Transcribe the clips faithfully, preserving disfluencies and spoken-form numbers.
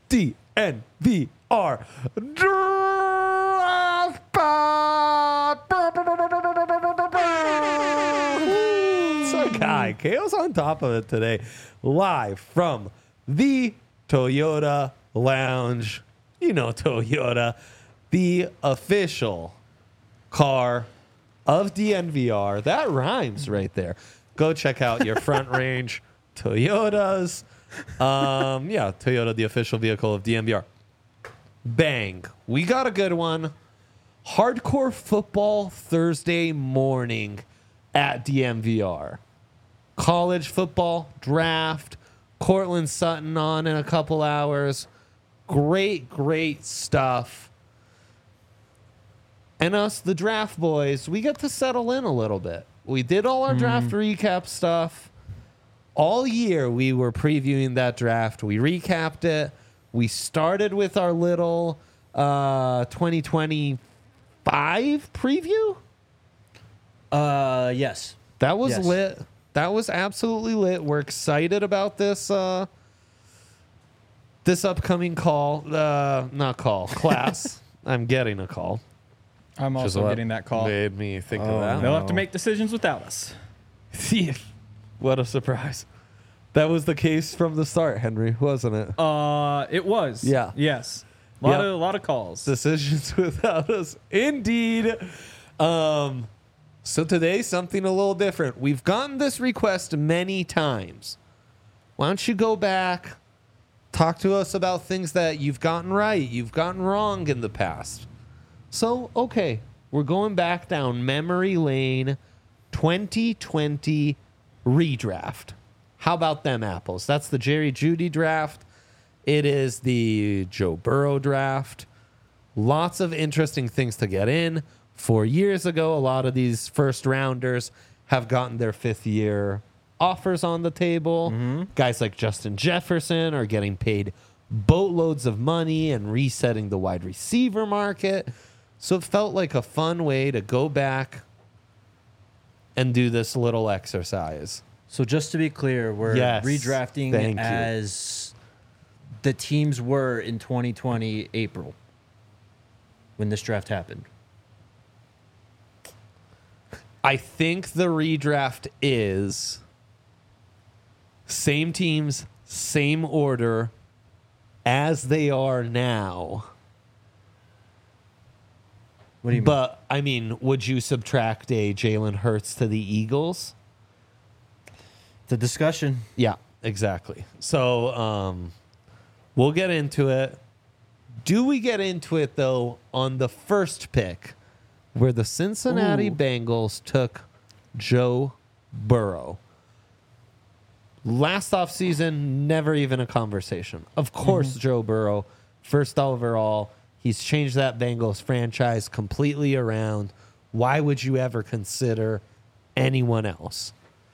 D N V R Draft Pod. It's our guy. Kale's on top of it today. Live from the Toyota Lounge. You know Toyota, the official car of D N V R. That rhymes right there. Go check out your Front Range Toyotas. Um, yeah, Toyota, the official vehicle of D N V R. Bang. We got a good one. Hardcore football Thursday morning at D M V R. College football draft. Cortland Sutton on in a couple hours. Great, great stuff. And us, the draft boys, we get to settle in a little bit. We did all our mm. draft recap stuff. All year we were previewing that draft. We recapped it. We started with our little uh, twenty twenty-five preview. Uh, yes. That was yes. lit. That was absolutely lit. We're excited about this uh, this upcoming call. Uh, not call. Class. I'm getting a call. I'm also getting that call. Made me think oh, of that. They'll have to make decisions without us. What a surprise. That was the case from the start, Henry, wasn't it? Uh, it was. Yeah. Yes. A lot Yep. of a lot of calls. Decisions without us. Indeed. Um, so today, something a little different. We've gotten this request many times. Why don't you go back, talk to us about things that you've gotten right, you've gotten wrong in the past. So, okay, we're going back down memory lane. twenty twenty redraft. How about them apples? That's the Jerry Jeudy draft. It is the Joe Burrow draft. Lots of interesting things to get in. Four years ago, a lot of these first rounders have gotten their fifth year offers on the table. Mm-hmm. Guys like Justin Jefferson are getting paid boatloads of money and resetting the wide receiver market. So it felt like a fun way to go back and do this little exercise. So just to be clear, we're Yes, redrafting thank you. as the teams were in twenty twenty April when this draft happened. I think the redraft is same teams, same order as they are now. What do you mean? But, I mean, would you subtract a Jalen Hurts to the Eagles? The discussion. Yeah, exactly. So um, we'll get into it. Do we get into it, though, on the first pick where the Cincinnati Ooh. Bengals took Joe Burrow? Last offseason, never even a conversation. Of course, mm-hmm. Joe Burrow, first overall. He's changed that Bengals franchise completely around. Why would you ever consider anyone else?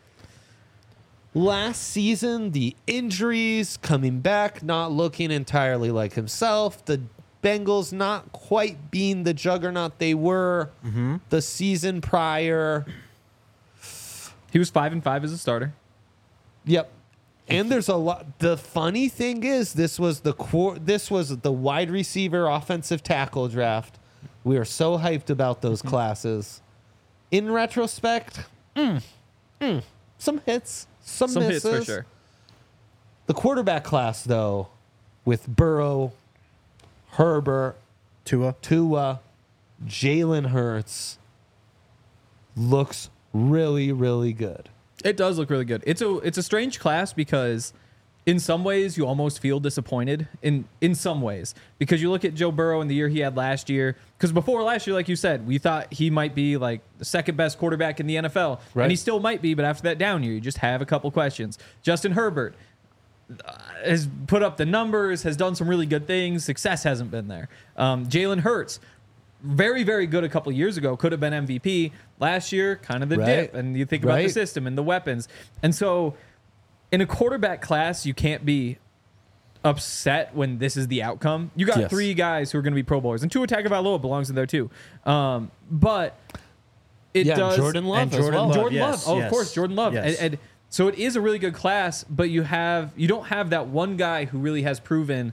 Last season, the injuries coming back, not looking entirely like himself. The Bengals not quite being the juggernaut they were mm-hmm. the season prior. He was five and five as a starter. Yep. And there's a lot. The funny thing is, this was the core. This was the wide receiver, offensive tackle draft. We are so hyped about those mm-hmm. classes. In retrospect, mm, mm, some hits. Some, Some misses. hits for sure. The quarterback class, though, with Burrow, Herbert, Tua, Tua, Jalen Hurts, looks really, really good. It does look really good. It's a it's a strange class because in some ways you almost feel disappointed in in some ways because you look at Joe Burrow in the year he had last year. Because before last year, like you said, we thought he might be like the second best quarterback in the N F L, right. and he still might be. But after that down year, you just have a couple questions. Justin Herbert has put up the numbers, has done some really good things. Success hasn't been there. Um, Jalen Hurts, very, very good a couple years ago, could have been M V P. Last year, kind of the right. dip. And you think about right. the system and the weapons. And so in a quarterback class, you can't be upset when this is the outcome. You got yes. three guys who are going to be Pro Bowlers. And Tua Tagovailoa belongs in there too. Um, but it yeah, does... Jordan Love and Jordan as well. Love, Jordan yes, Love. Oh, yes. of course, Jordan Love. Yes. And, and so it is a really good class, but you have you don't have that one guy who really has proven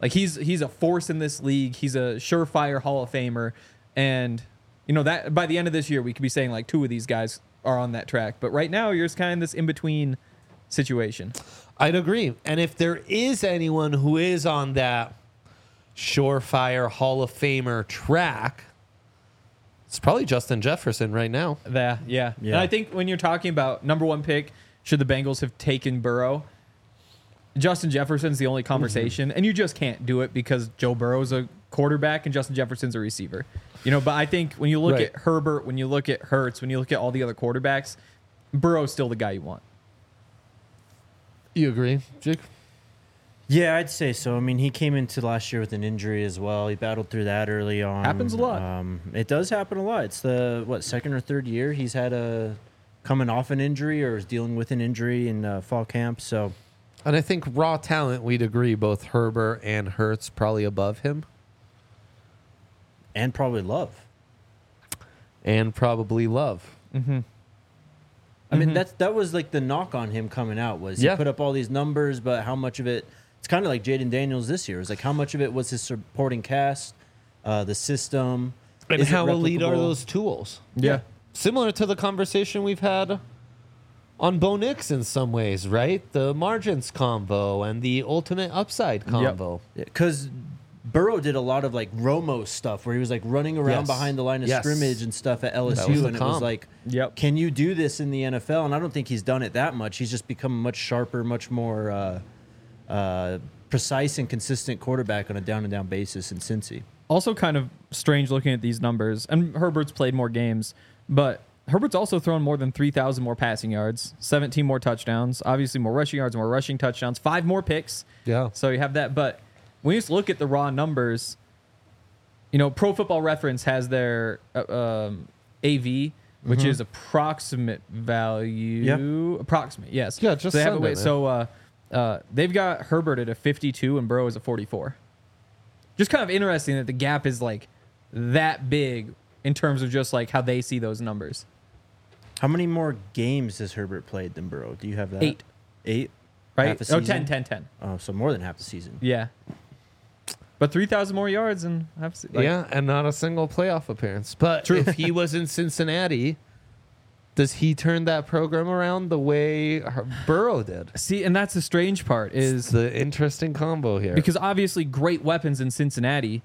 Like he's he's a force in this league. He's a surefire Hall of Famer, and you know that by the end of this year we could be saying like two of these guys are on that track. But right now you're just kind of this in between situation. I'd agree. And if there is anyone who is on that surefire Hall of Famer track, it's probably Justin Jefferson right now. That yeah. Yeah. And I think when you're talking about number one pick, should the Bengals have taken Burrow? Justin Jefferson's the only conversation, mm-hmm. and you just can't do it because Joe Burrow's a quarterback and Justin Jefferson's a receiver. You know, but I think when you look Right. at Herbert, when you look at Hurts, when you look at all the other quarterbacks, Burrow's still the guy you want. You agree, Jake? Yeah, I'd say so. I mean, he came into last year with an injury as well. He battled through that early on. Happens a lot. Um, it does happen a lot. It's the, what, second or third year he's had a coming off an injury or is dealing with an injury in uh, fall camp. So, And I think raw talent, we'd agree, both Herbert and Hurts probably above him. and probably Love. And probably Love. Mm-hmm. I mean, Mhm. that's that was like the knock on him coming out was Yeah. he put up all these numbers, but how much of it? It's kind of like Jaden Daniels this year. It's like how much of it was his supporting cast, uh, the system, And Is it how elite are replicable? those tools? Yeah. Similar to the conversation we've had on Bo Nix in some ways, right? The margins combo and the ultimate upside combo. because Burrow did a lot of like Romo stuff where he was like running around Yes. behind the line of Yes. scrimmage and stuff at L S That was U, the and it was comp. like, Yep. can you do this in the N F L? And I don't think he's done it that much. He's just become a much sharper, much more uh, uh, precise and consistent quarterback on a down and down basis in Cincy. Also kind of strange looking at these numbers. And Herbert's played more games, but Herbert's also thrown more than three thousand more passing yards, seventeen more touchdowns, obviously more rushing yards, more rushing touchdowns, five more picks. Yeah. So you have that. But when you just look at the raw numbers, you know, Pro Football Reference has their uh, um, A V, which Mm-hmm. is approximate value. Approximate, yes. Yeah, just so they have it send way- it, man. So uh, uh, they've got Herbert at a fifty-two and Burrow is a forty-four. Just kind of interesting that the gap is like that big in terms of just like how they see those numbers. How many more games has Herbert played than Burrow? Do you have that? Eight. Eight? Right? Half a Oh, season? ten, ten, ten. Oh, so more than half the season. Yeah. But three thousand more yards and half se- like, yeah, and not a single playoff appearance. But True. if he was in Cincinnati, does he turn that program around the way Her- Burrow did? See, and that's the strange part Is is the interesting combo here. because obviously great weapons in Cincinnati.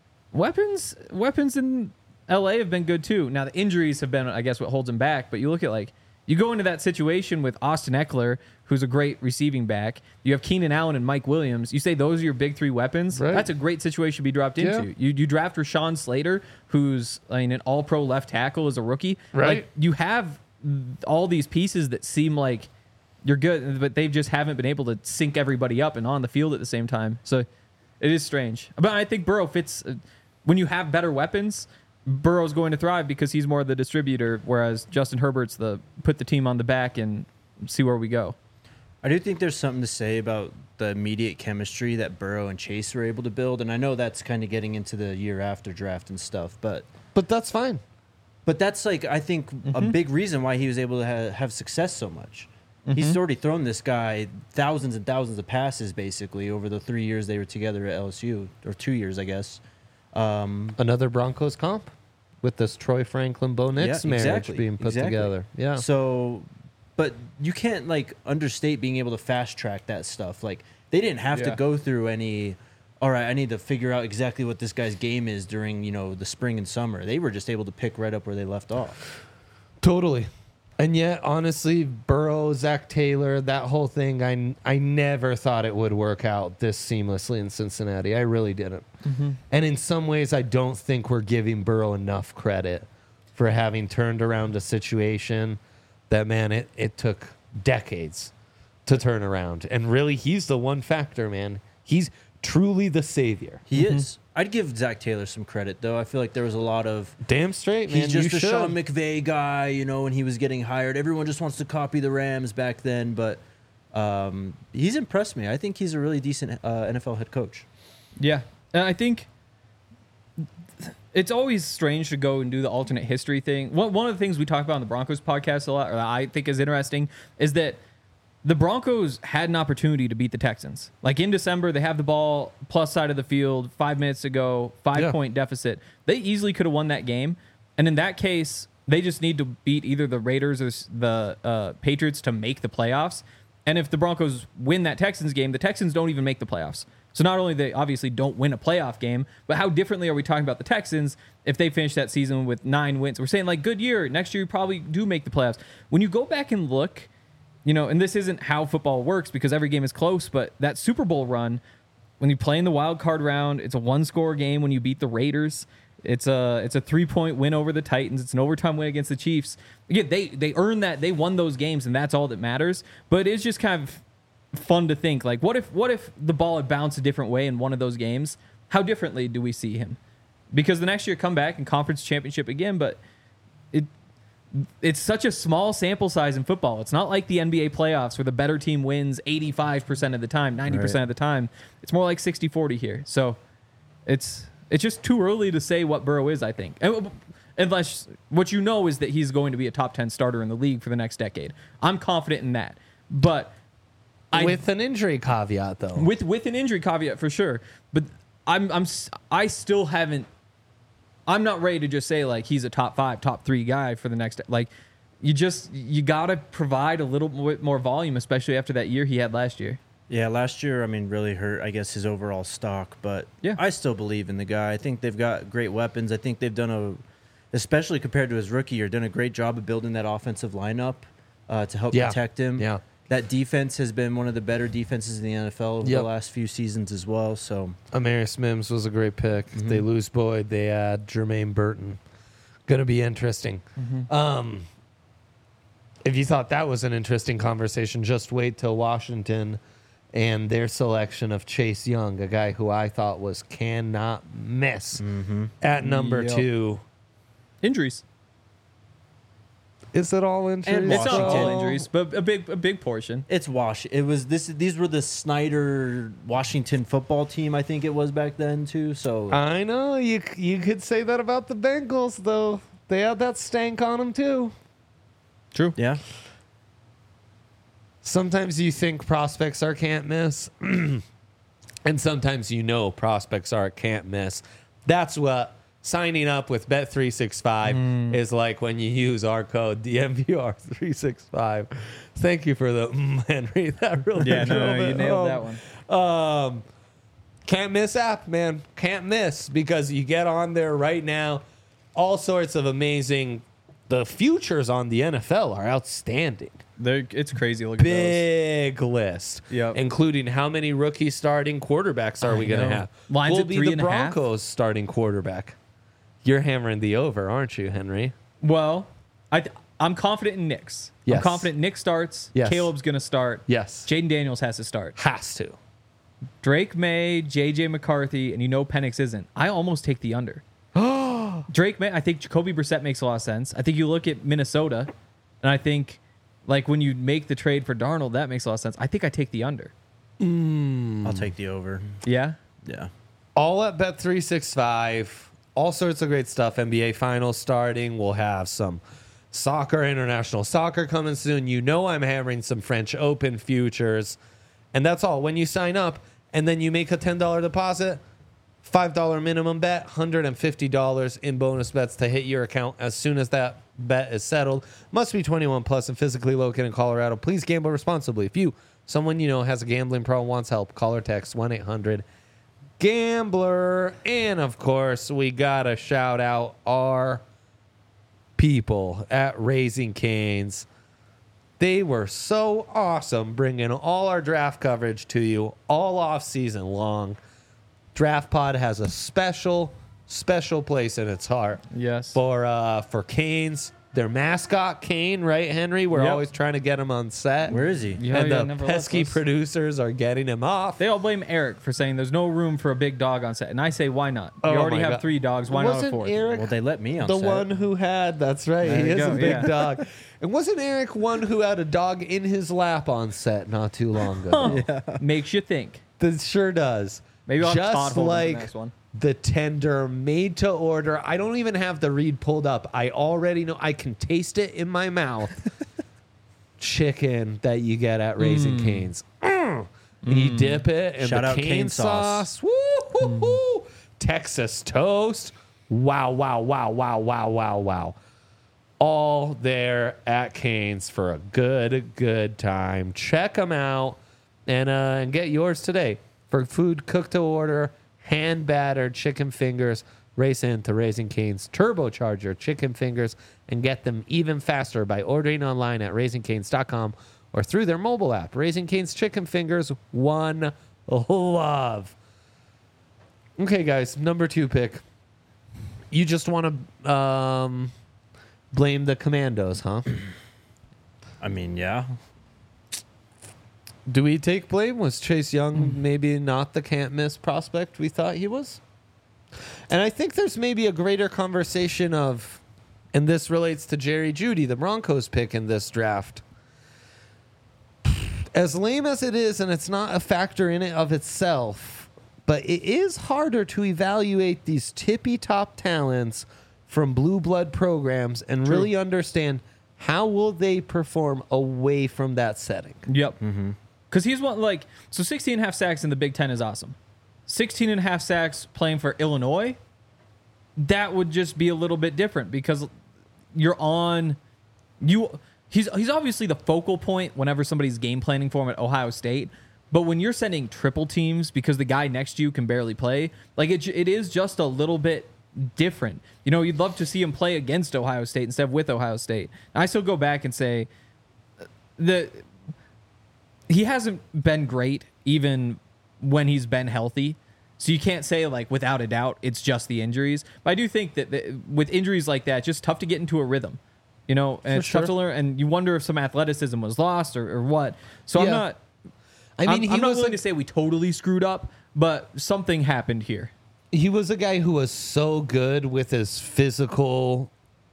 Weapons weapons in L A have been good too. Now the injuries have been I guess what holds him back, but you look at like you go into that situation with Austin Eckler, who's a great receiving back. You have Keenan Allen and Mike Williams. You say those are your big three weapons. Right. That's a great situation to be dropped Yeah. into. You you draft Rashawn Slater, who's I mean an all pro left tackle as a rookie. Right. Like you have all these pieces that seem like you're good, but they just haven't been able to sync everybody up and on the field at the same time. So it is strange. But I think Burrow fits uh, when you have better weapons. Burrow's going to thrive because he's more the distributor, whereas Justin Herbert's the put the team on the back and see where we go. I do think there's something to say about the immediate chemistry that Burrow and Chase were able to build, and I know that's kind of getting into the year after draft and stuff, but but that's fine. but that's like I think a big reason why he was able to ha- have success so much. He's already thrown this guy thousands and thousands of passes basically over the three years they were together at L S U, or two years I guess. Um, Another Broncos comp with this Troy Franklin Bo Nix Yeah, marriage exactly, being put exactly. together. Yeah. So, but you can't like understate being able to fast track that stuff. Like they didn't have Yeah. to go through any. All right, I need to figure out exactly what this guy's game is during you know the spring and summer. They were just able to pick right up where they left off. Totally. And yet, honestly, Burrow, Zach Taylor, that whole thing, I, I never thought it would work out this seamlessly in Cincinnati. I really didn't. And in some ways, I don't think we're giving Burrow enough credit for having turned around a situation that, man, it, it took decades to turn around. And really, he's the one factor, man. He's truly the savior. He is. I'd give Zach Taylor some credit though. I feel like there was a lot of. Damn straight, man. He's just you a should. Sean McVay guy, you know, when he was getting hired. Everyone just wants to copy the Rams back then, but um, he's impressed me. I think he's a really decent uh, N F L head coach. Yeah, and I think it's always strange to go and do the alternate history thing. One one of the things we talk about on the Broncos podcast a lot, or that I think is interesting, is that the Broncos had an opportunity to beat the Texans. Like in December, they have the ball plus side of the field, five minutes to go, five Yeah. point deficit. They easily could have won that game. And in that case, they just need to beat either the Raiders or s- the uh, Patriots to make the playoffs. And if the Broncos win that Texans game, the Texans don't even make the playoffs. So not only they obviously don't win a playoff game, but how differently are we talking about the Texans if they finish that season with nine wins? We're saying like good year. Next year you probably do make the playoffs. When you go back and look, you know, and this isn't how football works because every game is close, but that Super Bowl run, when you play in the wild card round, it's a one score game when you beat the Raiders. It's a it's a three point win over the Titans. It's an overtime win against the Chiefs. Again, they they earned that. They won those games, and that's all that matters. But it's just kind of fun to think like, what if what if the ball had bounced a different way in one of those games? How differently do we see him? Because the next year come back and conference championship again, but it it's such a small sample size in football. It's not like the N B A playoffs where the better team wins eighty-five percent of the time, ninety percent Right. of the time. It's more like sixty forty here. So it's it's just too early to say what Burrow is, I think. And, unless what you know is that he's going to be a top ten starter in the league for the next decade. I'm confident in that. But I With an injury caveat, though. with with an injury caveat for sure. But I'm I'm s- I still haven't. I'm not ready to just say like he's a top five, top three guy for the next. Like you just you gotta provide a little bit more volume, especially after that year he had last year. Yeah, last year, I mean, really hurt, I guess, his overall stock. But Yeah. I still believe in the guy. I think they've got great weapons. I think they've done a, especially compared to his rookie year, done a great job of building that offensive lineup uh, to help Yeah. protect him. Yeah. That defense has been one of the better defenses in the N F L over Yep. the last few seasons as well. So Amarius Mims was a great pick. Mm-hmm. They lose Boyd. They add Jermaine Burton. Going to be interesting. Um, if you thought that was an interesting conversation, just wait till Washington and their selection of Chase Young, a guy who I thought was cannot miss at number Yep. two. Injuries. Is it all injuries? And It's not all Washington. injuries, but a big a big portion. it's Wash. It was this. These were the Snyder Washington football team. I think it was back then too. So I know you. You could say that about the Bengals, though. They had that stank on them too. True. yeah, Sometimes you think prospects are can't miss, and sometimes you know prospects are can't miss. That's what signing up with Bet three sixty-five is like when you use our code D M V R three sixty-five. Thank you for the mm, Henry. That really Yeah, no, drove no, you it nailed home. that one. Um, can't miss app, man. Can't miss because you get on there right now. All sorts of amazing. The futures on the N F L are outstanding. They're, it's crazy. Look at those. Big list, Yep. including how many rookie starting quarterbacks are I we going to know. have? Lines Will at be three the and a half. Broncos starting quarterback. You're hammering the over, aren't you, Henry? Well, I th- I'm confident in Nick's. I'm Yes. confident Nick starts. Yes. Caleb's gonna start. Yes, Jaden Daniels has to start. has to. Drake May, J J McCarthy, and you know Penix isn't. I almost take the under. Drake May, I think Jacoby Brissett makes a lot of sense. I think you look at Minnesota, and I think, like, when you make the trade for Darnold, that makes a lot of sense. I think I take the under. I'll take the over. Yeah? Yeah. All at Bet three sixty-five. All sorts of great stuff. N B A finals starting. We'll have some soccer, international soccer coming soon. You know I'm hammering some French Open futures. And that's all. When you sign up and then you make a ten dollars deposit, five dollars minimum bet, one hundred fifty dollars in bonus bets to hit your account as soon as that bet is settled. Must be twenty-one plus and physically located in Colorado. Please gamble responsibly. If you, someone you know, has a gambling problem, wants help, call or text one eight hundred gambler. And of course, we gotta shout out our people at Raising Canes. They were so awesome bringing all our draft coverage to you all off season long. Draft Pod has a special, special place in its heart Yes. for uh, for Canes. Their mascot, Kane, right, Henry? We're Yep. always trying to get him on set. Where is he? Yeah, and yeah, the never left pesky us. producers are getting him off. They all blame Eric for saying there's no room for a big dog on set. And I say, why not? Oh You already my have God. three dogs. Why not a Wasn't fourth? Eric Well, they let me on the set. one who had, that's right, There he you is go, a big yeah. dog. And wasn't Eric one who had a dog in his lap on set not too long ago? Makes you think. That sure does. Maybe I'll have Just Todd hold him for the like next one. the tender made to order. I don't even have the read pulled up. I already know. I can taste it in my mouth. chicken that you get at Raising Cane's. Mm. And you dip it in Shout the out cane, cane sauce. sauce. Woo-hoo-hoo. Texas toast. Wow, wow, wow, wow, wow, wow, wow. All there at Cane's for a good, good time. Check them out and, uh, and get yours today. For food cooked to order, hand-battered chicken fingers, race into Raising Cane's Turbocharger chicken fingers and get them even faster by ordering online at raising canes dot com or through their mobile app. Raising Cane's chicken fingers, one love. Okay, guys, number two pick. You just want to um, blame the Commandos, huh? I mean, yeah. Do we take blame? Was Chase Young maybe not the can't miss prospect we thought he was? And I think there's maybe a greater conversation of, and this relates to Jerry Jeudy, the Broncos pick in this draft. As lame as it is, and it's not a factor in it of itself, but it is harder to evaluate these tippy top talents from blue blood programs and True. really understand how will they perform away from that setting. Yep. Because he's one, like, so sixteen and a half sacks in the Big Ten is awesome. sixteen and a half sacks playing for Illinois, that would just be a little bit different because you're on, you, he's, he's obviously the focal point whenever somebody's game planning for him at Ohio State. But when you're sending triple teams because the guy next to you can barely play, like it, it is just a little bit different. You know, you'd love to see him play against Ohio State instead of with Ohio State. I still go back and say the he hasn't been great even when he's been healthy. So you can't say, like, without a doubt, it's just the injuries. But I do think that the, with injuries like that, it's just tough to get into a rhythm. You know, and For it's sure. tough to learn. And you wonder if some athleticism was lost or, or what. So I'm Yeah. not... I mean, I'm, he I'm not was willing a, to say we totally screwed up, but something happened here. he was a guy who was so good with his physical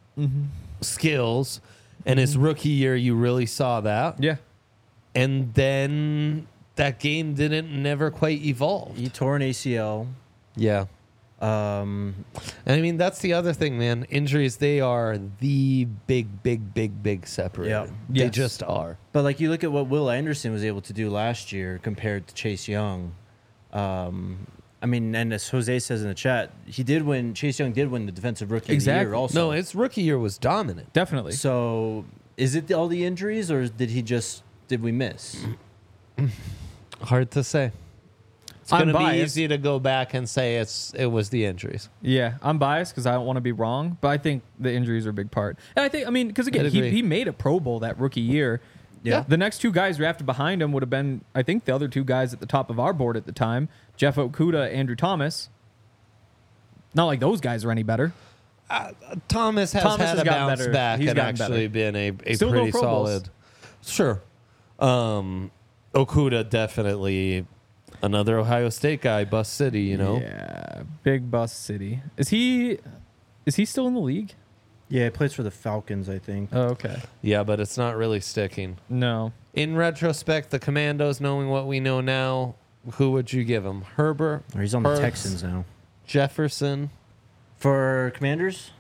skills, and his rookie year, you really saw that. Yeah. And then that game didn't never quite evolve. He tore an A C L. Yeah. Um, And I mean, that's the other thing, man. Injuries, they are the big, big, big, big separator. Yeah. They Yes. just are. but like you look at what Will Anderson was able to do last year compared to Chase Young. Um, I mean, and as Jose says in the chat, he did win. Chase Young did win the Defensive Rookie of the Exactly. Year also. No, his rookie year was dominant. Definitely. So is it all the injuries, or did he just did we miss? Hard to say. It's I'm going to be biased. easy to go back and say it's it was the injuries. Yeah, I'm biased because I don't want to be wrong, but I think the injuries are a big part. And I think, I mean, because again, I'd he, agree. he made a Pro Bowl that rookie year. Yeah. The next two guys drafted behind him would have been, I think, the other two guys at the top of our board at the time, Jeff Okudah, Andrew Thomas. Not like those guys are any better. Thomas has Thomas had has a gotten bounce better. back He's and gotten actually better. been a, a Still no pretty Pro Bowls. solid. Sure. Um, Okuda definitely another Ohio State guy, Bus City, you know. Yeah, big bus city. Is he? Is he still in the league? Yeah, he plays for the Falcons, I think. Oh, okay. Yeah, but it's not really sticking. No. In retrospect, the Commandos, knowing what we know now, who would you give him? Herbert, Or he's on the Hurts, Texans now. Jefferson. For Commanders,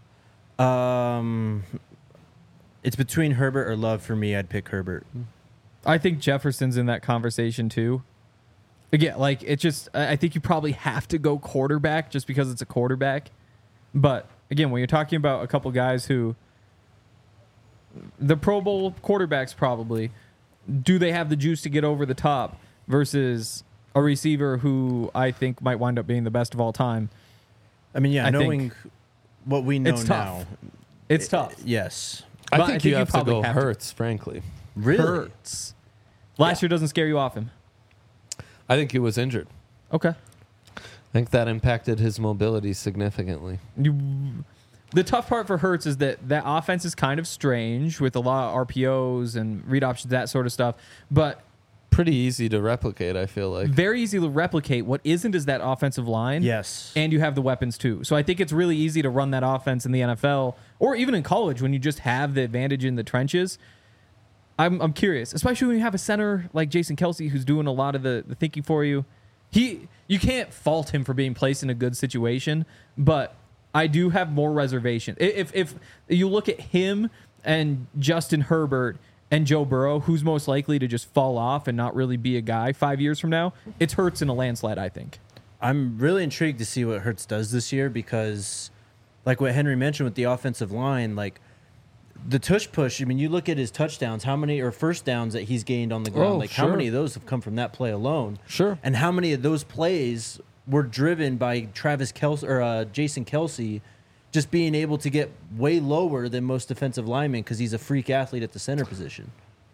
um, it's between Herbert or Love for me. I'd pick Herbert. I think Jefferson's in that conversation too. Again, like it just, I I think you probably have to go quarterback just because it's a quarterback. But again, when you're talking about a couple guys who, the Pro Bowl quarterbacks probably, do they have the juice to get over the top versus a receiver who I think might wind up being the best of all time? I mean, yeah, I think knowing what we know it's tough. now, It's it- tough. Yes, I But think I think you you have to probably go have to- Hurts, frankly. really. Hurts. Last year doesn't scare you off him. I think he was injured. Okay. I think that impacted his mobility significantly. You, the tough part for Hurts is that that offense is kind of strange with a lot of R P Os and read options, that sort of stuff. But Pretty easy to replicate, I feel like. very easy to replicate. What isn't is that offensive line. Yes, And you have the weapons too. So I think it's really easy to run that offense in the N F L or even in college when you just have the advantage in the trenches. I'm I'm curious, especially when you have a center like Jason Kelsey who's doing a lot of the, the thinking for you. He you can't fault him for being placed in a good situation, but I do have more reservation. I- If if you look at him and Justin Herbert and Joe Burrow, who's most likely to just fall off and not really be a guy five years from now? It's Hurts in a landslide, I think. I'm really intrigued to see what Hurts does this year because, like what Henry mentioned with the offensive line, like the tush push. I mean, you look at his touchdowns, how many or first downs that he's gained on the ground. Oh, like sure. how many of those have come from that play alone? Sure. And how many of those plays were driven by Travis Kelce or uh, Jason Kelce, just being able to get way lower than most defensive linemen because he's a freak athlete at the center position.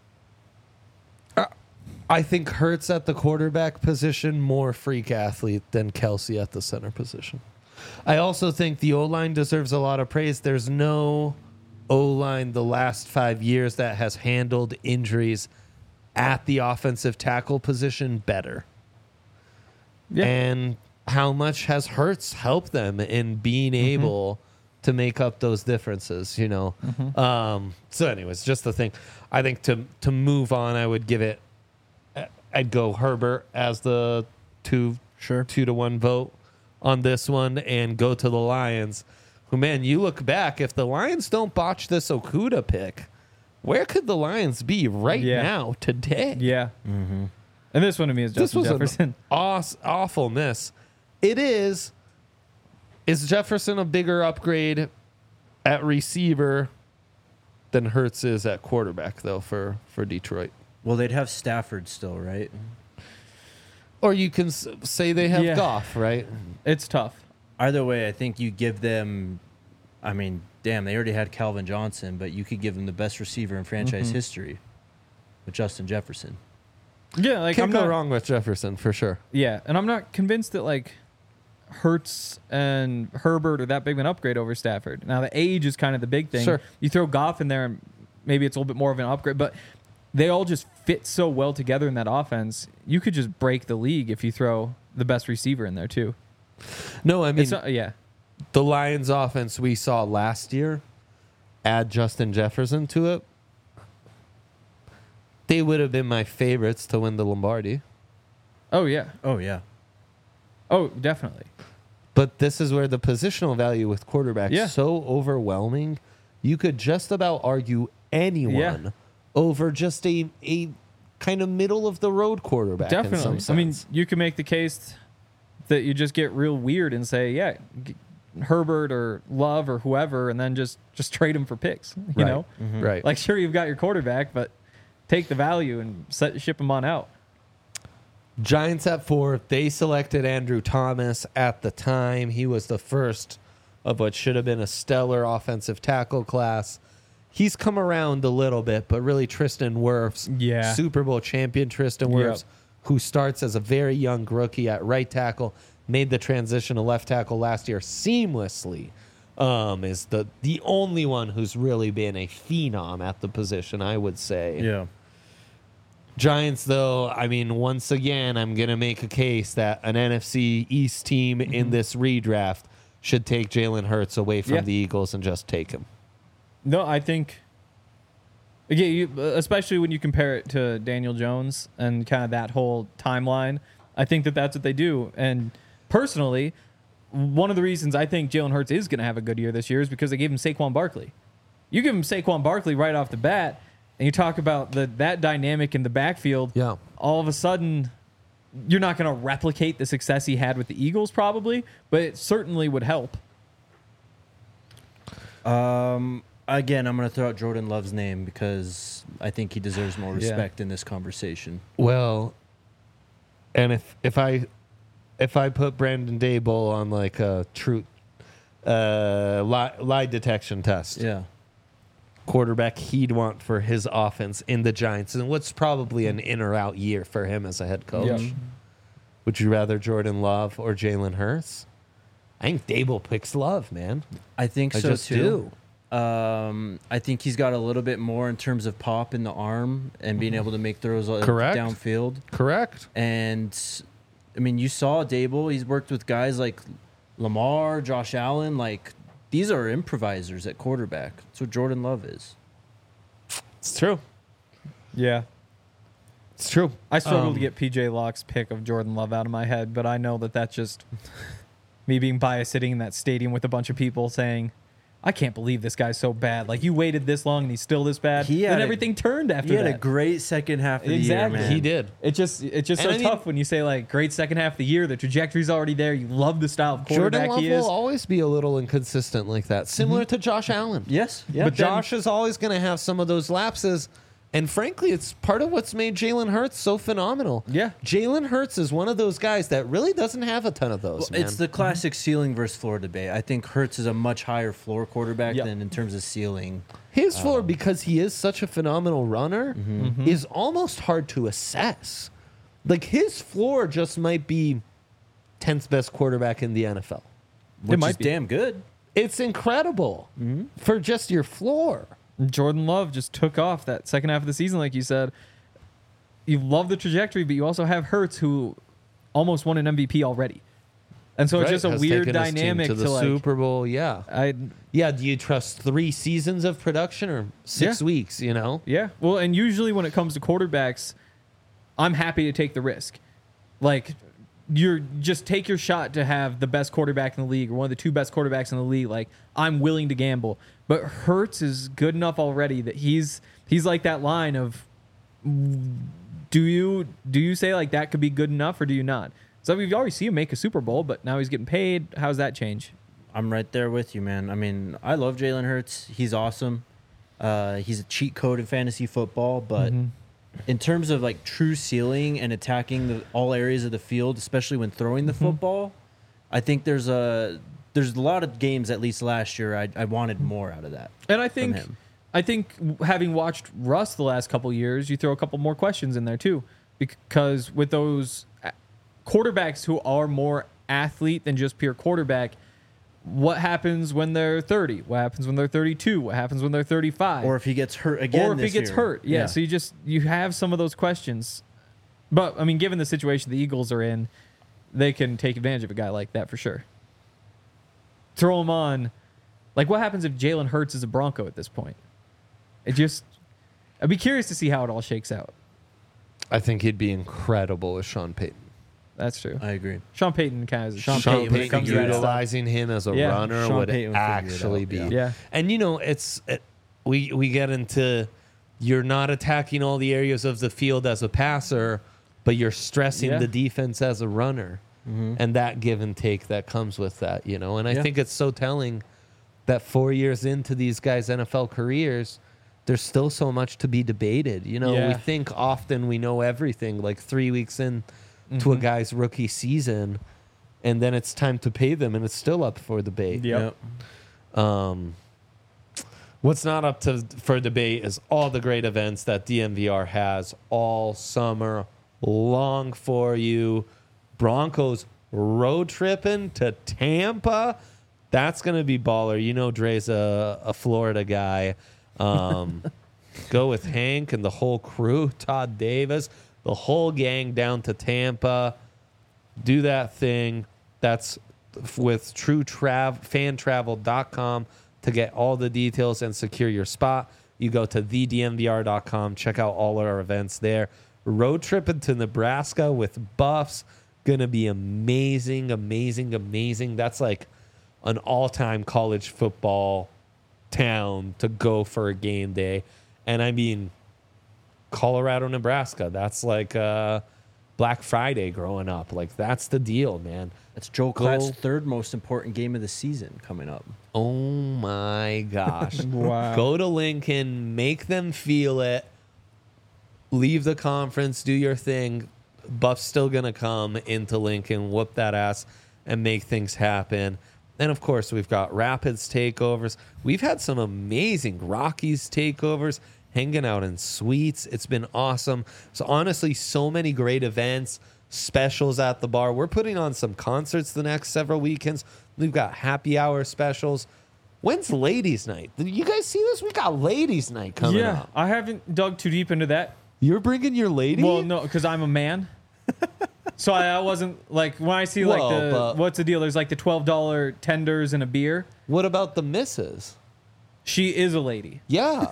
I think Hurts at the quarterback position more freak athlete than Kelsey at the center position. I also think the O-line deserves a lot of praise. There's no O-line the last five years that has handled injuries at the offensive tackle position better. Yeah. And how much has Hurts helped them in being Mm-hmm. able to make up those differences, you know? Mm-hmm. Um, so anyways, just the thing. I think to to move on, I would give it, I'd go Herbert as the two, Sure. two to one vote on this one and go to the Lions, who, man, you look back, if the Lions don't botch this Okuda pick, where could the Lions be right Yeah. now, today? Yeah. Mm-hmm. And this one to me is This Justin was Jefferson. an aw- awful miss. It is. Is Jefferson a bigger upgrade at receiver than Hurts is at quarterback, though, for, for Detroit? Well, they'd have Stafford still, right? Or you can s- say they have Yeah. Goff, right? It's tough. Either way, I think you give them. I mean, damn, they already had Calvin Johnson, but you could give them the best receiver in franchise Mm-hmm. history with Justin Jefferson. Yeah, like Can't I'm go not wrong with Jefferson, for sure. Yeah, and I'm not convinced that like Hurts and Herbert are that big of an upgrade over Stafford. Now the age is kind of the big thing. Sure. You throw Goff in there, and maybe it's a little bit more of an upgrade, but they all just fit so well together in that offense. You could just break the league if you throw the best receiver in there too. No, I mean, It's not, yeah, the Lions offense we saw last year, add Justin Jefferson to it, they would have been my favorites to win the Lombardi. oh yeah, Oh yeah. oh definitely. But this is where the positional value with quarterbacks Yeah. so overwhelming. You could just about argue anyone Yeah. over just a a kind of middle of the road quarterback. In Definitely. some I sense. mean, you can make the case that you just get real weird and say, yeah, g- Herbert or Love or whoever, and then just just trade him for picks. You Right. know, right? like sure you've got your quarterback, but take the value and set, ship him on out. Giants at four. They selected Andrew Thomas at the time. He was the first of what should have been a stellar offensive tackle class. He's come around a little bit, but really Tristan Wirfs, Yeah. Super Bowl champion Tristan Yep. Wirfs, who starts as a very young rookie at right tackle, made the transition to left tackle last year seamlessly. Um, is the the only one who's really been a phenom at the position, I would say. Yeah. Giants, though, I mean, once again, I'm going to make a case that an N F C East team in this redraft should take Jalen Hurts away from Yeah. the Eagles and just take him. No, I think. Again, you, especially when you compare it to Daniel Jones and kind of that whole timeline, I think that that's what they do. And personally, one of the reasons I think Jalen Hurts is going to have a good year this year is because they gave him Saquon Barkley. You give him Saquon Barkley right off the bat, and you talk about the that dynamic in the backfield. Yeah. All of a sudden, you're not going to replicate the success he had with the Eagles, probably, but it certainly would help. Um. Again, I'm going to throw out Jordan Love's name because I think he deserves more Yeah. respect in this conversation. Well, and if if I if I put Brandon Daboll on like a truth uh, lie, lie detection test, Yeah. quarterback he'd want for his offense in the Giants, and what's probably an in or out year for him as a head coach. Yep. Would you rather Jordan Love or Jalen Hurts? I think Daboll picks Love, man. I think I so just too. do. Um, I think he's got a little bit more in terms of pop in the arm and being able to make throws uh, Correct. downfield. Correct. And I mean, you saw Dable. He's worked with guys like Lamar, Josh Allen. Like these are improvisers at quarterback. That's what Jordan Love is. It's true. Yeah. It's true. I struggled Um, to get P J Locke's pick of Jordan Love out of my head, but I know that that's just me being biased sitting in that stadium with a bunch of people saying, I can't believe this guy's so bad. Like, you waited this long and he's still this bad. He Then had a- everything turned after He had that. a great second half of the Exactly. year, man. He did. It just it's just And so I mean- tough when you say like great second half of the year. The trajectory's already there. You love the style of Jordan quarterback Love he is. will always be a little inconsistent like that, similar to Josh Allen. Yes. Yeah. But Josh is always going to have some of those lapses. And frankly, it's part of what's made Jalen Hurts so phenomenal. Yeah. Jalen Hurts is one of those guys that really doesn't have a ton of those, Well, man. it's the classic ceiling versus floor debate. I think Hurts is a much higher floor quarterback Yep. than in terms of ceiling. His floor, because he is such a phenomenal runner, is almost hard to assess. Like, his floor just might be tenth best quarterback in the N F L. Which might is be. damn good. It's incredible for just your floor. Jordan Love just took off that second half of the season, like you said. You love the trajectory, but you also have Hurts, who almost won an M V P already, and so it's Right, just a has weird taken his team dynamic to to, the like. Super Bowl. Yeah, I yeah. Do you trust three seasons of production or six Yeah. weeks? You know, yeah. Well, and usually when it comes to quarterbacks, I'm happy to take the risk. Like, you're just take your shot to have the best quarterback in the league or one of the two best quarterbacks in the league. Like, I'm willing to gamble. But Hurts is good enough already that he's he's like that line of, do you do you say like that could be good enough or do you not? So we've already seen him make a Super Bowl, but now he's getting paid. How's that change? I'm right there with you, man. I mean, I love Jalen Hurts. He's awesome. Uh, he's a cheat code in fantasy football, but in terms of like true ceiling and attacking the, all areas of the field, especially when throwing the football, I think there's a there's a lot of games, at least last year, I, I wanted more out of that. And I think, him. I think having watched Russ the last couple years, you throw a couple more questions in there too, because with those quarterbacks who are more athlete than just pure quarterback, what happens when they're thirty? What happens when they're thirty-two? What happens when they're thirty-five? Or if he gets hurt again, or if he this gets year. hurt? Yeah, So you just you have some of those questions, but I mean, given the situation the Eagles are in, they can take advantage of a guy like that for sure. Throw him on. Like, what happens if Jalen Hurts is a Bronco at this point? It just, I'd be curious to see how it all shakes out. I think he'd be incredible with Sean Payton. That's true. I agree. Sean Payton kind of Sean Sean Payton would Payton figure it out. utilizing him as a Yeah, runner Sean would Payton would figure it actually out, be. yeah. Yeah. And you know, it's it, we we get into you're not attacking all the areas of the field as a passer, but you're stressing Yeah. the defense as a runner, and that give and take that comes with that. You know, and I Yeah. think it's so telling that four years into these guys' N F L careers, there's still so much to be debated. You know, we Yeah. think often we know everything, like three weeks in to a guy's rookie season, and then it's time to pay them, and it's still up for debate. Yep. Um, what's not up to for debate is all the great events that D M V R has all summer long for you. Broncos road tripping to Tampa. That's going to be baller. You know Dre's a, a Florida guy. Um, go with Hank and the whole crew, Todd Davis, the whole gang down to Tampa. Do that thing. That's with true trav fan travel dot com to get all the details and secure your spot. You go to the d m v r dot com, check out all our events there. Road tripping to Nebraska with Buffs. Gonna be amazing, amazing, amazing. That's like an all-time college football town to go for a game day. And I mean, Colorado, Nebraska, that's like uh, Black Friday growing up. Like, that's the deal, man. That's Joe Go- Klatt's third most important game of the season coming up. Oh my gosh. Wow. Go to Lincoln, make them feel it. Leave the conference, do your thing. Buff's still going to come into Lincoln, whoop that ass, and make things happen. And of course, we've got Rapids takeovers. We've had some amazing Rockies takeovers, hanging out in suites. It's been awesome. So honestly, so many great events, specials at the bar. We're putting on some concerts the next several weekends. We've got happy hour specials. When's ladies' night? Did you guys see this? We got ladies' night coming Yeah, up. I haven't dug too deep into that. You're bringing your lady? Well, no, because I'm a man. So I, I wasn't like when I see like Whoa, the but- what's the deal? There's like the twelve dollar tenders and a beer. What about the missus? She is a lady. Yeah.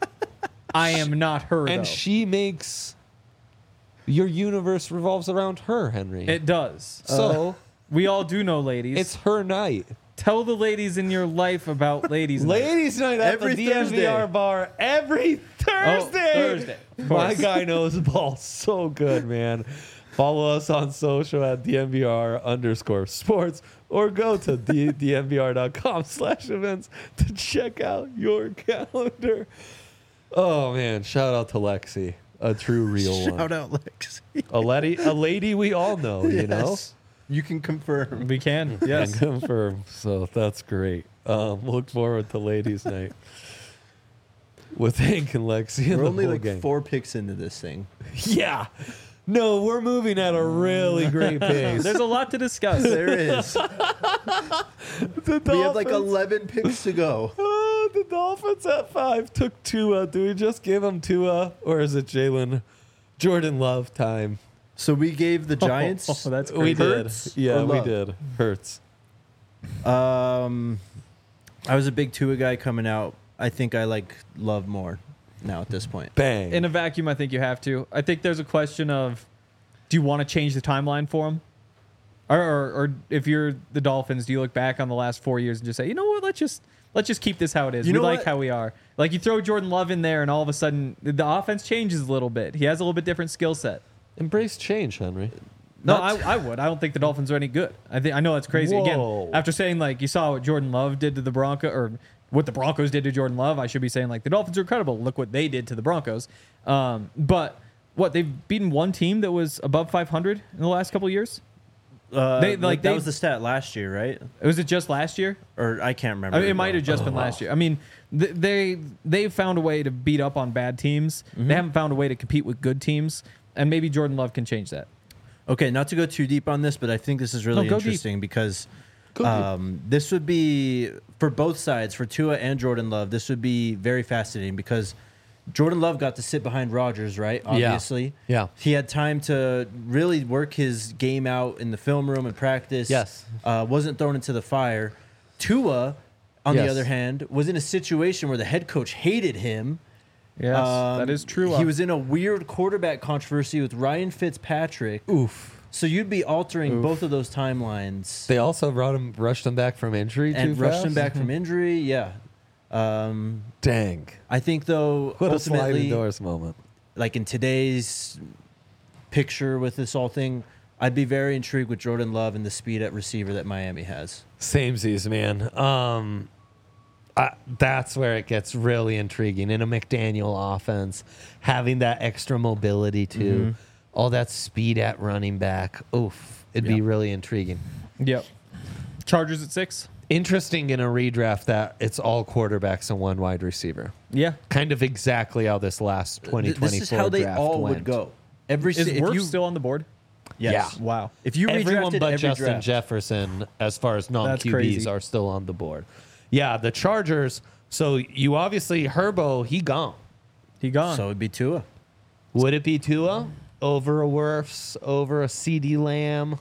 I am not her. And though. she makes your universe revolves around her, Henry. It does. so We all do know ladies. it's her night. Tell the ladies in your life about ladies. night. Ladies' night at Every the D M V R Thursday. bar every Thursday. Oh, Thursday. Of My course. guy knows ball so good, man. Follow us on social at D M V R underscore sports or go to dmvr.com slash events to check out your calendar. Oh, man. Shout out to Lexi, a true real one. Shout out, Lexi. A lady, a lady we all know, you know? Yes. You can confirm. We can. And Yes. confirm. So that's great. Um, look forward to ladies' night with Hank and Lexi and We're the only whole like gang. four picks into this thing. Yeah. No, we're moving at a really great pace. There's a lot to discuss. There is. The We have like Dolphins- eleven picks to go. Oh, the Dolphins at five took Tua. Do we just give them Tua, or is it Jalen Jordan Love time? So we gave the Giants. Oh, that's crazy. We did. Hurts Yeah, or we Love? did. Hurts. Um, I was a big Tua guy coming out. I think I like Love more now at this point. Bang. In a vacuum, I think you have to. I think there's a question of, do you want to change the timeline for him? Or, or, or if you're the Dolphins, do you look back on the last four years and just say, you know what, let's just let's just keep this how it is. You we know like what? how we are. Like you throw Jordan Love in there, and all of a sudden the offense changes a little bit. He has a little bit different skill set. Embrace change, Henry. No, Not- I, I would. I don't think the Dolphins are any good. I think I know that's crazy. Whoa. Again, after saying like you saw what Jordan Love did to the Broncos, or what the Broncos did to Jordan Love, I should be saying like the Dolphins are incredible. Look what they did to the Broncos. Um, but what they've beaten one team that was above five hundred in the last couple of years. Uh, They- like like, that they- was the stat last year, right? Was it just last year? Or I can't remember. I mean, it might have just been Oh, wow. last year. I mean, th- they they've found a way to beat up on bad teams. Mm-hmm. They haven't found a way to compete with good teams, and maybe Jordan Love can change that. Okay, not to go too deep on this, but I think this is really No, go deep. interesting because Go deep. um, this would be for both sides, for Tua and Jordan Love. This would be very fascinating because Jordan Love got to sit behind Rodgers, right? Obviously, Yeah. He had time to really work his game out in the film room and practice. Yes. uh, wasn't thrown into the fire. Tua, on the Yes. other hand, was in a situation where the head coach hated him. Yes, Um, that is true. He was in a weird quarterback controversy with Ryan Fitzpatrick. Oof. So you'd be altering Oof. both of those timelines They also brought him, rushed him back from injury and too rushed fast? him back from injury. Yeah. Um, Dang. I think though, What a sliding ultimately, doors moment. like in today's picture with this whole thing, I'd be very intrigued with Jordan Love and the speed at receiver that Miami has. Samesies, man. Um, I, that's where it gets really intriguing in a McDaniel offense, having that extra mobility too, Mhm. all that speed at running back. Oof, it'd be Yeah. really intriguing. Yep. Chargers at six. Interesting in a redraft that it's all quarterbacks and one wide receiver. Yeah. Kind of exactly how this last twenty Th- twenty-four This is how they draft all went. would go. Every Is si- if Wirfs you still on the board? yes. Yeah. Wow. If you Everyone redrafted but every Justin draft, Jefferson, as far as non That's Q Bs, crazy. are still on the board. Yeah, the Chargers. So you obviously Herbo, he gone. He gone. so it'd be Tua. Would it be Tua over a Wirfs, over a CeeDee Lamb?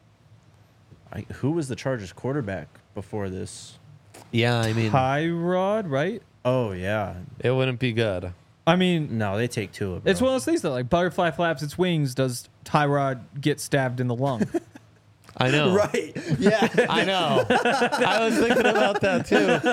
I, who was the Chargers quarterback before this? Yeah, I mean, Tyrod, right? Oh yeah, it wouldn't be good. I mean, no, they take Tua. Bro. it's one of those things that like butterfly flaps its wings. Does Tyrod get stabbed in the lung? I know. right. Yeah. I know. I was thinking about that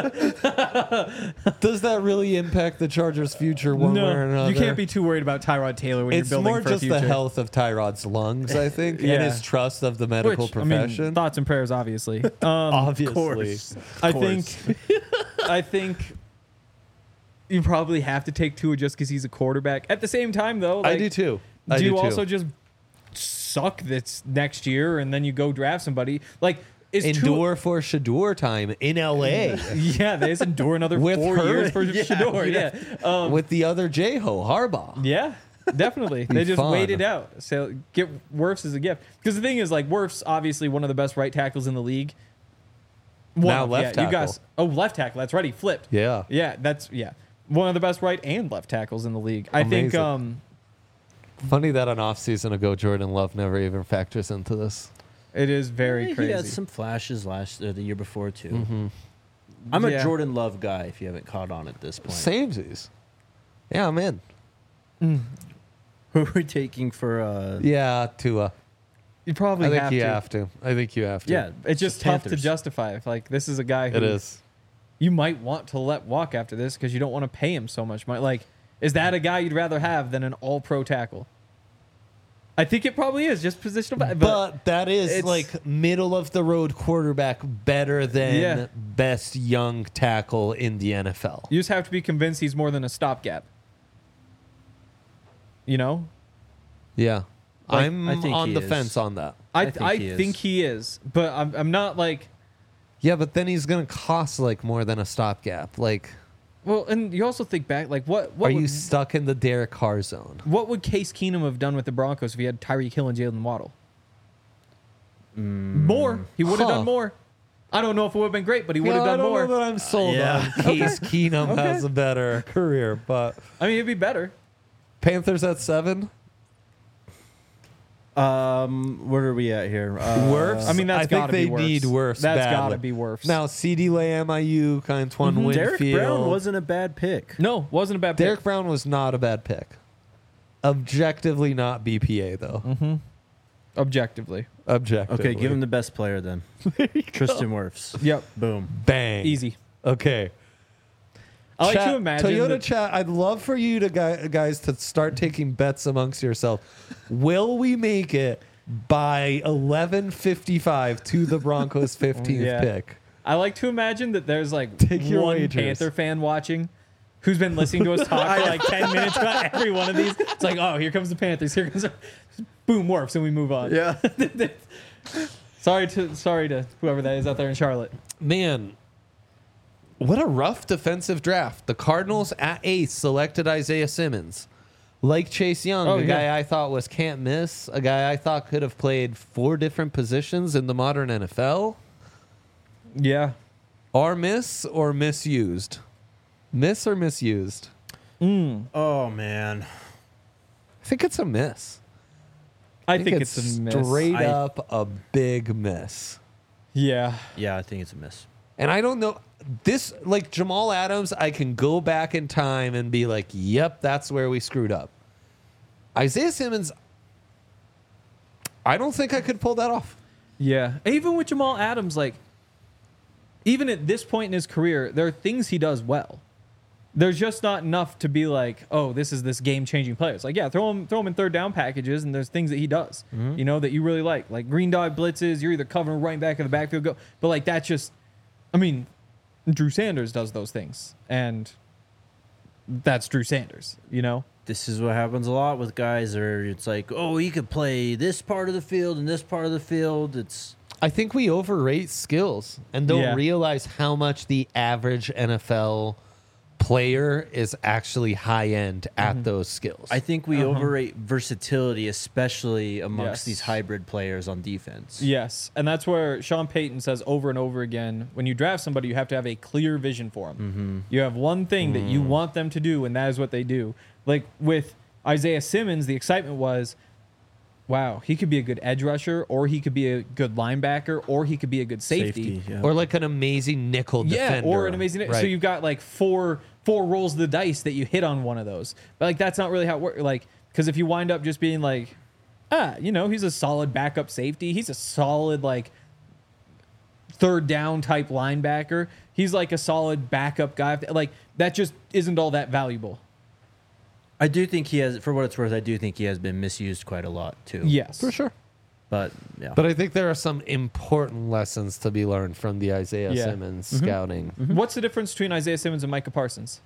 too. Does that really impact the Chargers' future one way or another? you can't be too worried about Tyrod Taylor when It's you're building more for just a the future. health of Tyrod's lungs, I think, and Yeah. his trust of the medical Which, I mean, profession. thoughts and prayers, obviously. Um, Obviously. course. I course. think, I think you probably have to take Tua just because he's a quarterback. At the same time, though, I like, do too. I do do you too. also just suck this next year and then you go draft somebody? Like, is endure for Shador time in L A Tua, yeah, they just endure another With four her- years for yeah, Shador. Yeah, Um, with the other J-Ho, Harbaugh. yeah, definitely. they just fun. waited out. So get Wirfs as a gift because the thing is, like, Wirfs obviously one of the best right tackles in the league. One Now of- left yeah, You tackle. guys, oh, left tackle. That's right. He flipped. Yeah. Yeah, that's yeah. One of the best right and left tackles in the league. I think Amazing. um Funny that an off season ago, Jordan Love never even factors into this. it is very He crazy. had some flashes last or the year before too. Mm-hmm. I'm a Yeah. Jordan Love guy. If you haven't caught on at this point, Samesies. Yeah, I'm in. who are we taking for? Uh, Yeah, Tua. You probably I think have you to. have to. I think you have to. Yeah, It's just the tough to Panthers. justify. If like this is a guy who it is. you might want to let walk after this because you don't want to pay him so much money. Like, is that a guy you'd rather have than an all-pro tackle? I think it probably is just positional. But, But that is it's- like middle of the road quarterback better than Yeah. best young tackle in the N F L. you just have to be convinced he's more than a stopgap. You know, Yeah. Like, I'm I think on he the is. fence on that. I I I think think, he is. think he is, but I'm I'm not like. Yeah, but then he's going to cost like more than a stopgap. Like, Well, and you also think back, like what what are would, you stuck in the Derek Carr zone? what would Case Keenum have done with the Broncos if he had Tyreek Hill and Jalen Waddle? More, he would have Huh. done more. I don't know if it would have been great, but he would have Yeah, I done don't more. know that I'm sold Yeah. on Case Keenum has a better career, but I mean, it'd be better. Panthers at seven. Um, where are we at here? Uh, Wirfs? I mean, that's I think gotta they be Wirfs. need Wirfs That's badly. gotta be Wirfs. Now, CeeDee Lamb, Ayuk, Antoine Mhm. Winfield. Derek Brown wasn't a bad pick. No, wasn't a bad pick. Derek Brown was not a bad pick. Objectively not B P A, though. Mm-hmm. Objectively. Objectively. Okay, give him the best player then. Tristan Wirfs. Yep. Boom. Bang. Easy. Okay. I like Chat- to imagine. Toyota that- chat. I'd love for you to guy- guys to start taking bets amongst yourself. Will we make it by eleven fifty-five to the Broncos' fifteenth Yeah. pick? I like to imagine that there's like Take your one wagers. Panther fan watching who's been listening to us talk for like ten minutes about every one of these. It's like, oh, here comes the Panthers. Here comes the boom Warps, and we move on. Yeah. Sorry to sorry to whoever that is out there in Charlotte. Man, what a rough defensive draft. The Cardinals at eighth selected Isaiah Simmons. Like Chase Young, Oh, a yeah. guy I thought was can't miss, a guy I thought could have played four different positions in the modern N F L. Yeah. Are miss or misused? Miss or misused? Mm. Oh man. I think it's a miss. I, think, it's, a miss. straight I- up a big miss. Yeah. Yeah, I think it's a miss. And I don't know this like Jamal Adams, I can go back in time and be like, yep, that's where we screwed up. Isaiah Simmons, I don't think I could pull that off. Yeah. Even with Jamal Adams, like, even at this point in his career, there are things he does well. There's just not enough to be like, oh, this is this game-changing player. It's like, yeah, throw him, throw him in third down packages, and there's things that he does, you know, that you really like, like green dog blitzes. You're either covering right back in the backfield, go, but like that's just, I mean, Drew Sanders does those things, and that's Drew Sanders, you know. This is what happens a lot with guys, or it's like, oh, he could play this part of the field and this part of the field. It's I think we overrate skills and don't Yeah. realize how much the average N F L player is actually high end at those skills. I think we Uh-huh. overrate versatility, especially amongst Yes. these hybrid players on defense. Yes, and that's where Sean Payton says over and over again, when you draft somebody, you have to have a clear vision for them. Mm-hmm. You have one thing that you want them to do, and that is what they do. Like with Isaiah Simmons, the excitement was, wow, he could be a good edge rusher, or he could be a good linebacker, or he could be a good safety. yeah. or like an amazing nickel Yeah, defender. or an amazing. So Right. you've got like four four rolls of the dice that you hit on one of those. But like that's not really how it works. Like because if you wind up just being like, ah, you know, he's a solid backup safety. He's a solid like third down type linebacker. He's like a solid backup guy. Like that just isn't all that valuable. I do think he has, for what it's worth, I do think he has been misused quite a lot too. Yes, for sure. But yeah. But I think there are some important lessons to be learned from the Isaiah Yeah. Simmons scouting. What's the difference between Isaiah Simmons and Micah Parsons?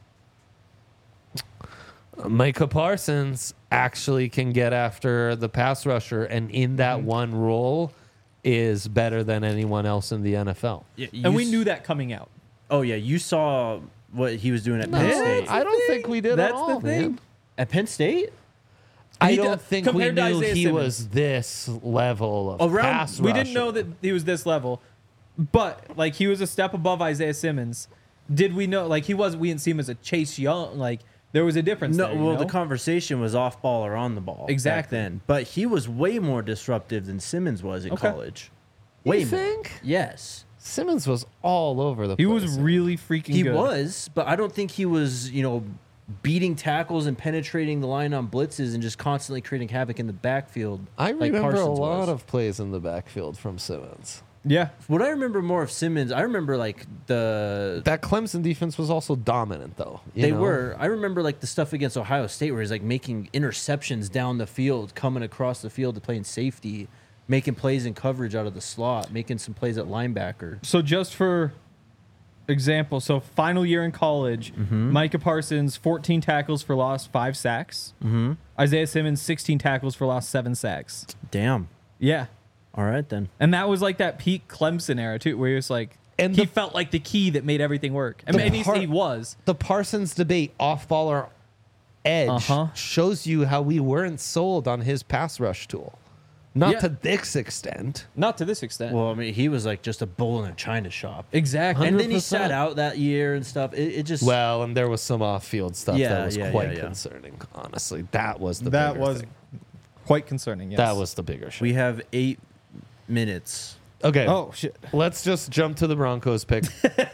Micah Parsons actually can get after the pass rusher, and in that Mm-hmm. one role is better than anyone else in the N F L. Yeah, you And we s- knew that coming out. Oh yeah, you saw what he was doing at Penn State. I don't think we did That's at all, the thing. man. At Penn State? I He don't did- think we compared to knew Isaiah he Simmons. was this level of Around- pass We rusher. didn't know that he was this level, but like he was a step above Isaiah Simmons. Did we know? Like he was. We didn't see him as a Chase Young. Like there was a difference. No, there, you well, know? the conversation was off ball or on the ball. Exactly. Back then. But he was way more disruptive than Simmons was in Okay. college. Way You more. think? Yes. Simmons was all over the he place. was really freaking He good. was, but I don't think he was, you know, beating tackles and penetrating the line on blitzes and just constantly creating havoc in the backfield. I like remember Parsons a lot was. of plays in the backfield from Simmons. Yeah. What I remember more of Simmons, I remember like the That Clemson defense was also dominant, though. you they know? were. I remember like the stuff against Ohio State where he's like making interceptions down the field, coming across the field to play in safety, making plays in coverage out of the slot, making some plays at linebacker. So just for example, so final year in college, Micah Parsons, fourteen tackles for loss, five sacks. Mm-hmm. Isaiah Simmons, sixteen tackles for loss, seven sacks. Damn. Yeah. All right then. And that was like that peak Clemson era too, where he was like, And he the- felt like the key that made everything work. I The mean, and he, par- he was. The Parsons debate, off ball or edge, Uh-huh. shows you how we weren't sold on his pass rush tool. Not Yeah. to this extent. Not to this extent. Well, I mean, he was like just a bull in a china shop. exactly. And then he one hundred percent. sat out that year and stuff. It, it just Well, and there was some off-field stuff Yeah, that was yeah, quite yeah, yeah. concerning. Honestly, that was the that bigger was thing. quite concerning. Yes. That was the bigger shit. we have eight minutes. Okay. Oh shit. Let's just jump to the Broncos pick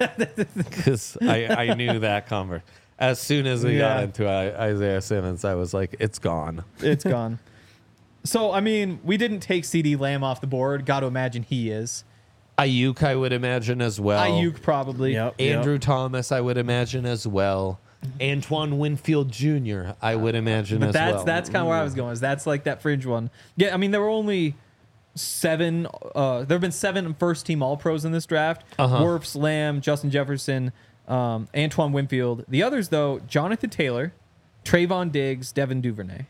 because I, I knew that convert. As soon as we got Yeah. into I, Isaiah Simmons, I was like, it's gone. It's gone. So I mean, we didn't take CeeDee Lamb off the board. Got to imagine he is. Ayuk, I would imagine as well. Ayuk probably. Yep. Andrew Thomas, I would imagine as well. Antoine Winfield Junior, I would imagine But as that's well. that's kind of where I was going. Is that's like that fringe one. Yeah, I mean there were only seven. Uh, there have been seven first team All Pros in this draft. Uh-huh. Wirfs, Lamb, Justin Jefferson, um, Antoine Winfield. The others though, Jonathan Taylor, Trayvon Diggs, Devin Duvernay.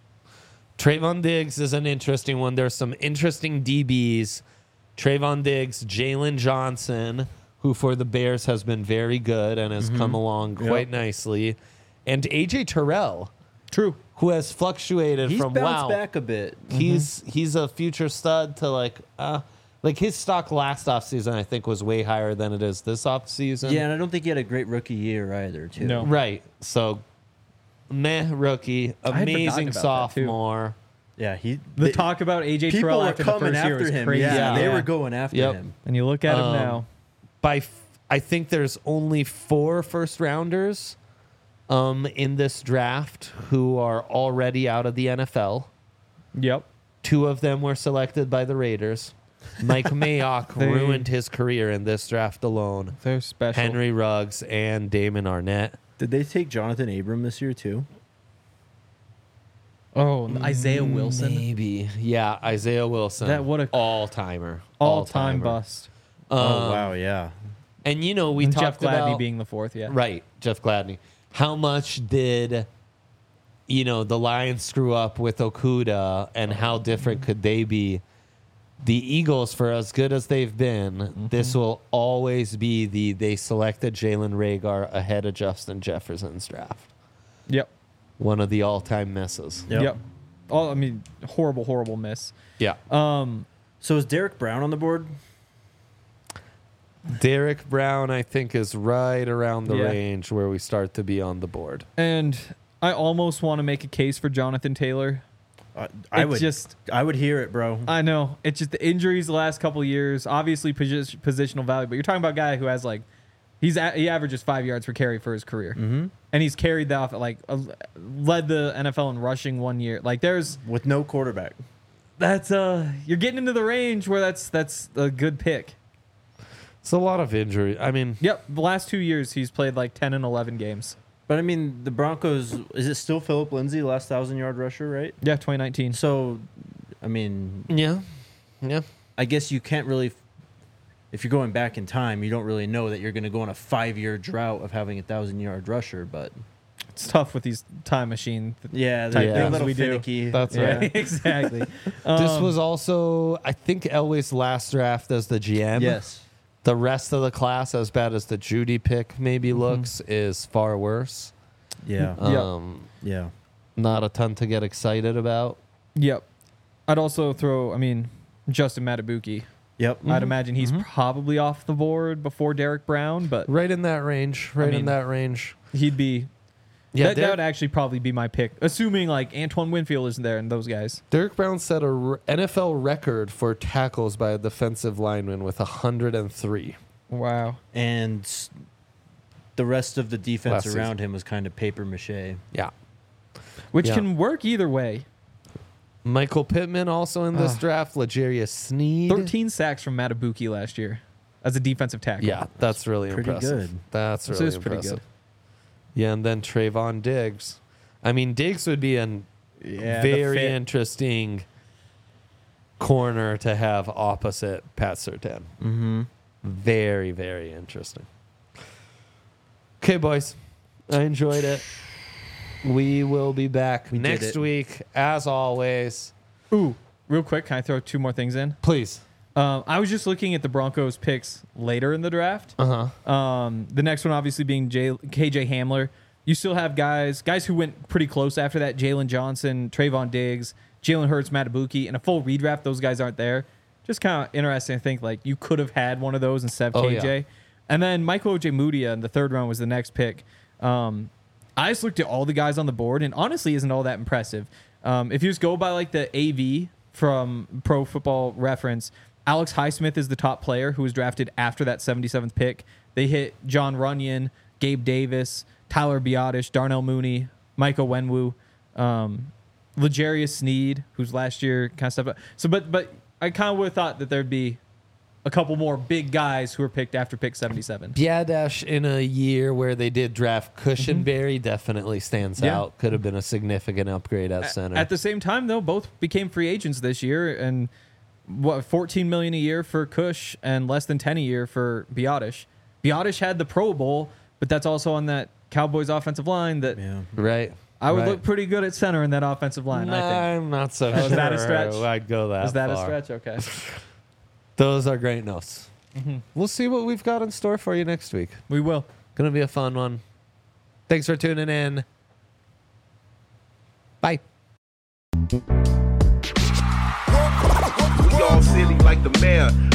Trayvon Diggs is an interesting one. There's some interesting D Bs. Trayvon Diggs, Jalen Johnson, who for the Bears has been very good and has come along quite nicely, and A J Terrell, True. who has fluctuated He's from bounced wow, back a bit. he's he's a future stud to like uh like his stock last offseason I think was way higher than it is this offseason. Yeah, and I don't think he had a great rookie year either, too. No. Right. So meh rookie, I had amazing forgotten about that, too. sophomore. Yeah, he. The they- talk about A J people Terrell were after the coming first year after was him. crazy. Yeah, they Yeah. were going after Yep. him. And you look at him Um, now. By f- I think there's only four first rounders um in this draft who are already out of the N F L. Yep. Two of them were selected by the Raiders. Mike Mayock They- ruined his career in this draft alone. They're special. Henry Ruggs and Damon Arnett. Did they take Jonathan Abram this year, too? Oh, and Isaiah Wilson. Maybe. Yeah, Isaiah Wilson. That what a- all-timer. All time All-timer. bust. Um, oh, wow, yeah. And you know, we And talked Jeff Gladney about being the fourth, yeah. right, Jeff Gladney. How much did you know the Lions screw up with Okuda, and how different could they be? The Eagles, for as good as they've been, Mm-hmm. this will always be the they selected Jalen Reagor ahead of Justin Jefferson's draft. Yep. One of the all-time misses. Yep. Yep. Oh, I mean, horrible, horrible miss. Yeah. Um, So is Derek Brown on the board? Derek Brown, I think, is right around the Yeah. range where we start to be on the board. and I almost want to make a case for Jonathan Taylor. Uh, I It would just- I would hear it, bro. I know it's just the injuries the last couple of years. Obviously, posi- positional value, but you're talking about a guy who has like he's a, he averages five yards per carry for his career, Mm-hmm. and he's carried that off like uh, led the N F L in rushing one year. Like there's With no quarterback. that's uh you're getting into the range where that's that's a good pick. It's a lot of injury. I mean, Yep, the last two years he's played like ten and eleven games. But I mean, the Broncos, is it still Philip Lindsay, last thousand yard rusher, right? Yeah, twenty nineteen. So, I mean, yeah, yeah. I guess you can't really, if you're going back in time, you don't really know that you're going to go on a five year drought of having a thousand yard rusher. But It's tough with these time machine. yeah, Type they're, things they're a little we do. finicky. That's Yeah, right. exactly. This Um, was also, I think, Elway's last draft as the G M. Yes. The rest of the class, as bad as the Judy pick maybe Mm-hmm. looks, is far worse. Yeah. Yeah. Um, Yeah. Not a ton to get excited about. Yep. I'd also throw. I mean, Justin Matabuki. Yep. I'd imagine he's probably off the board before Derek Brown, but Right in that range. Right mean, in that range. he'd be. Yeah, that, that Derek, would actually probably be my pick, assuming like Antoine Winfield isn't there and those guys. Derek Brown set a r- N F L record for tackles by a defensive lineman with one hundred three. Wow. And s- the rest of the defense Last around season. him was kind of paper mache. Yeah. which Yeah. can work either way. Michael Pittman also in this Ugh. draft. L'Jarius Sneed. thirteen sacks from Matabuki last year as a defensive tackle. Yeah, that's really Pretty impressive. good. That's This really is pretty impressive. good. Yeah, and then Trayvon Diggs. I mean, Diggs would be an Yeah, the very fit. interesting corner to have opposite Pat Surtain. Mm-hmm. Very, very interesting. Okay, boys. I enjoyed it. We will be back We did next it. week, as always. Ooh, real quick, can I throw two more things in? Please. Um, I was just looking at the Broncos picks later in the draft. Uh huh. Um, the next one obviously being J- K J Hamler. You still have guys guys who went pretty close after that. Jalen Johnson, Trayvon Diggs, Jalen Hurts, Matabuki. In a full redraft, those guys aren't there. Just kind of interesting to think like you could have had one of those instead of Oh, K J. yeah. And then Michael Ojemudia in the third round was the next pick. Um, I just looked at all the guys on the board and honestly isn't all that impressive. Um, if you just go by like the A V from Pro Football Reference, Alex Highsmith is the top player who was drafted after that seventy-seventh pick. They hit John Runyon, Gabe Davis, Tyler Biotish, Darnell Mooney, Michael Wenwu, um, L'Jarius Sneed, who's last year kind of stepped up. So, but but I kind of would have thought that there'd be a couple more big guys who were picked after pick seventy-seven. Biadash in a year where they did draft Cushenberry definitely stands Yeah. out. Could have been a significant upgrade at center. At the same time, though, both became free agents this year, and what fourteen million a year for Cush and less than ten a year for Biotish. Biotish had the Pro Bowl, but that's also on that Cowboys offensive line that Yeah. right. I would right. look pretty good at center in that offensive line. Nah, I think. I'm not so Oh, sure. is that a stretch? I'd go that Is that a far. stretch? Okay. Those are great notes. Mm-hmm. We'll see what we've got in store for you next week. We will. Gonna be a fun one. Thanks for tuning in. Bye. We all silly like the mayor.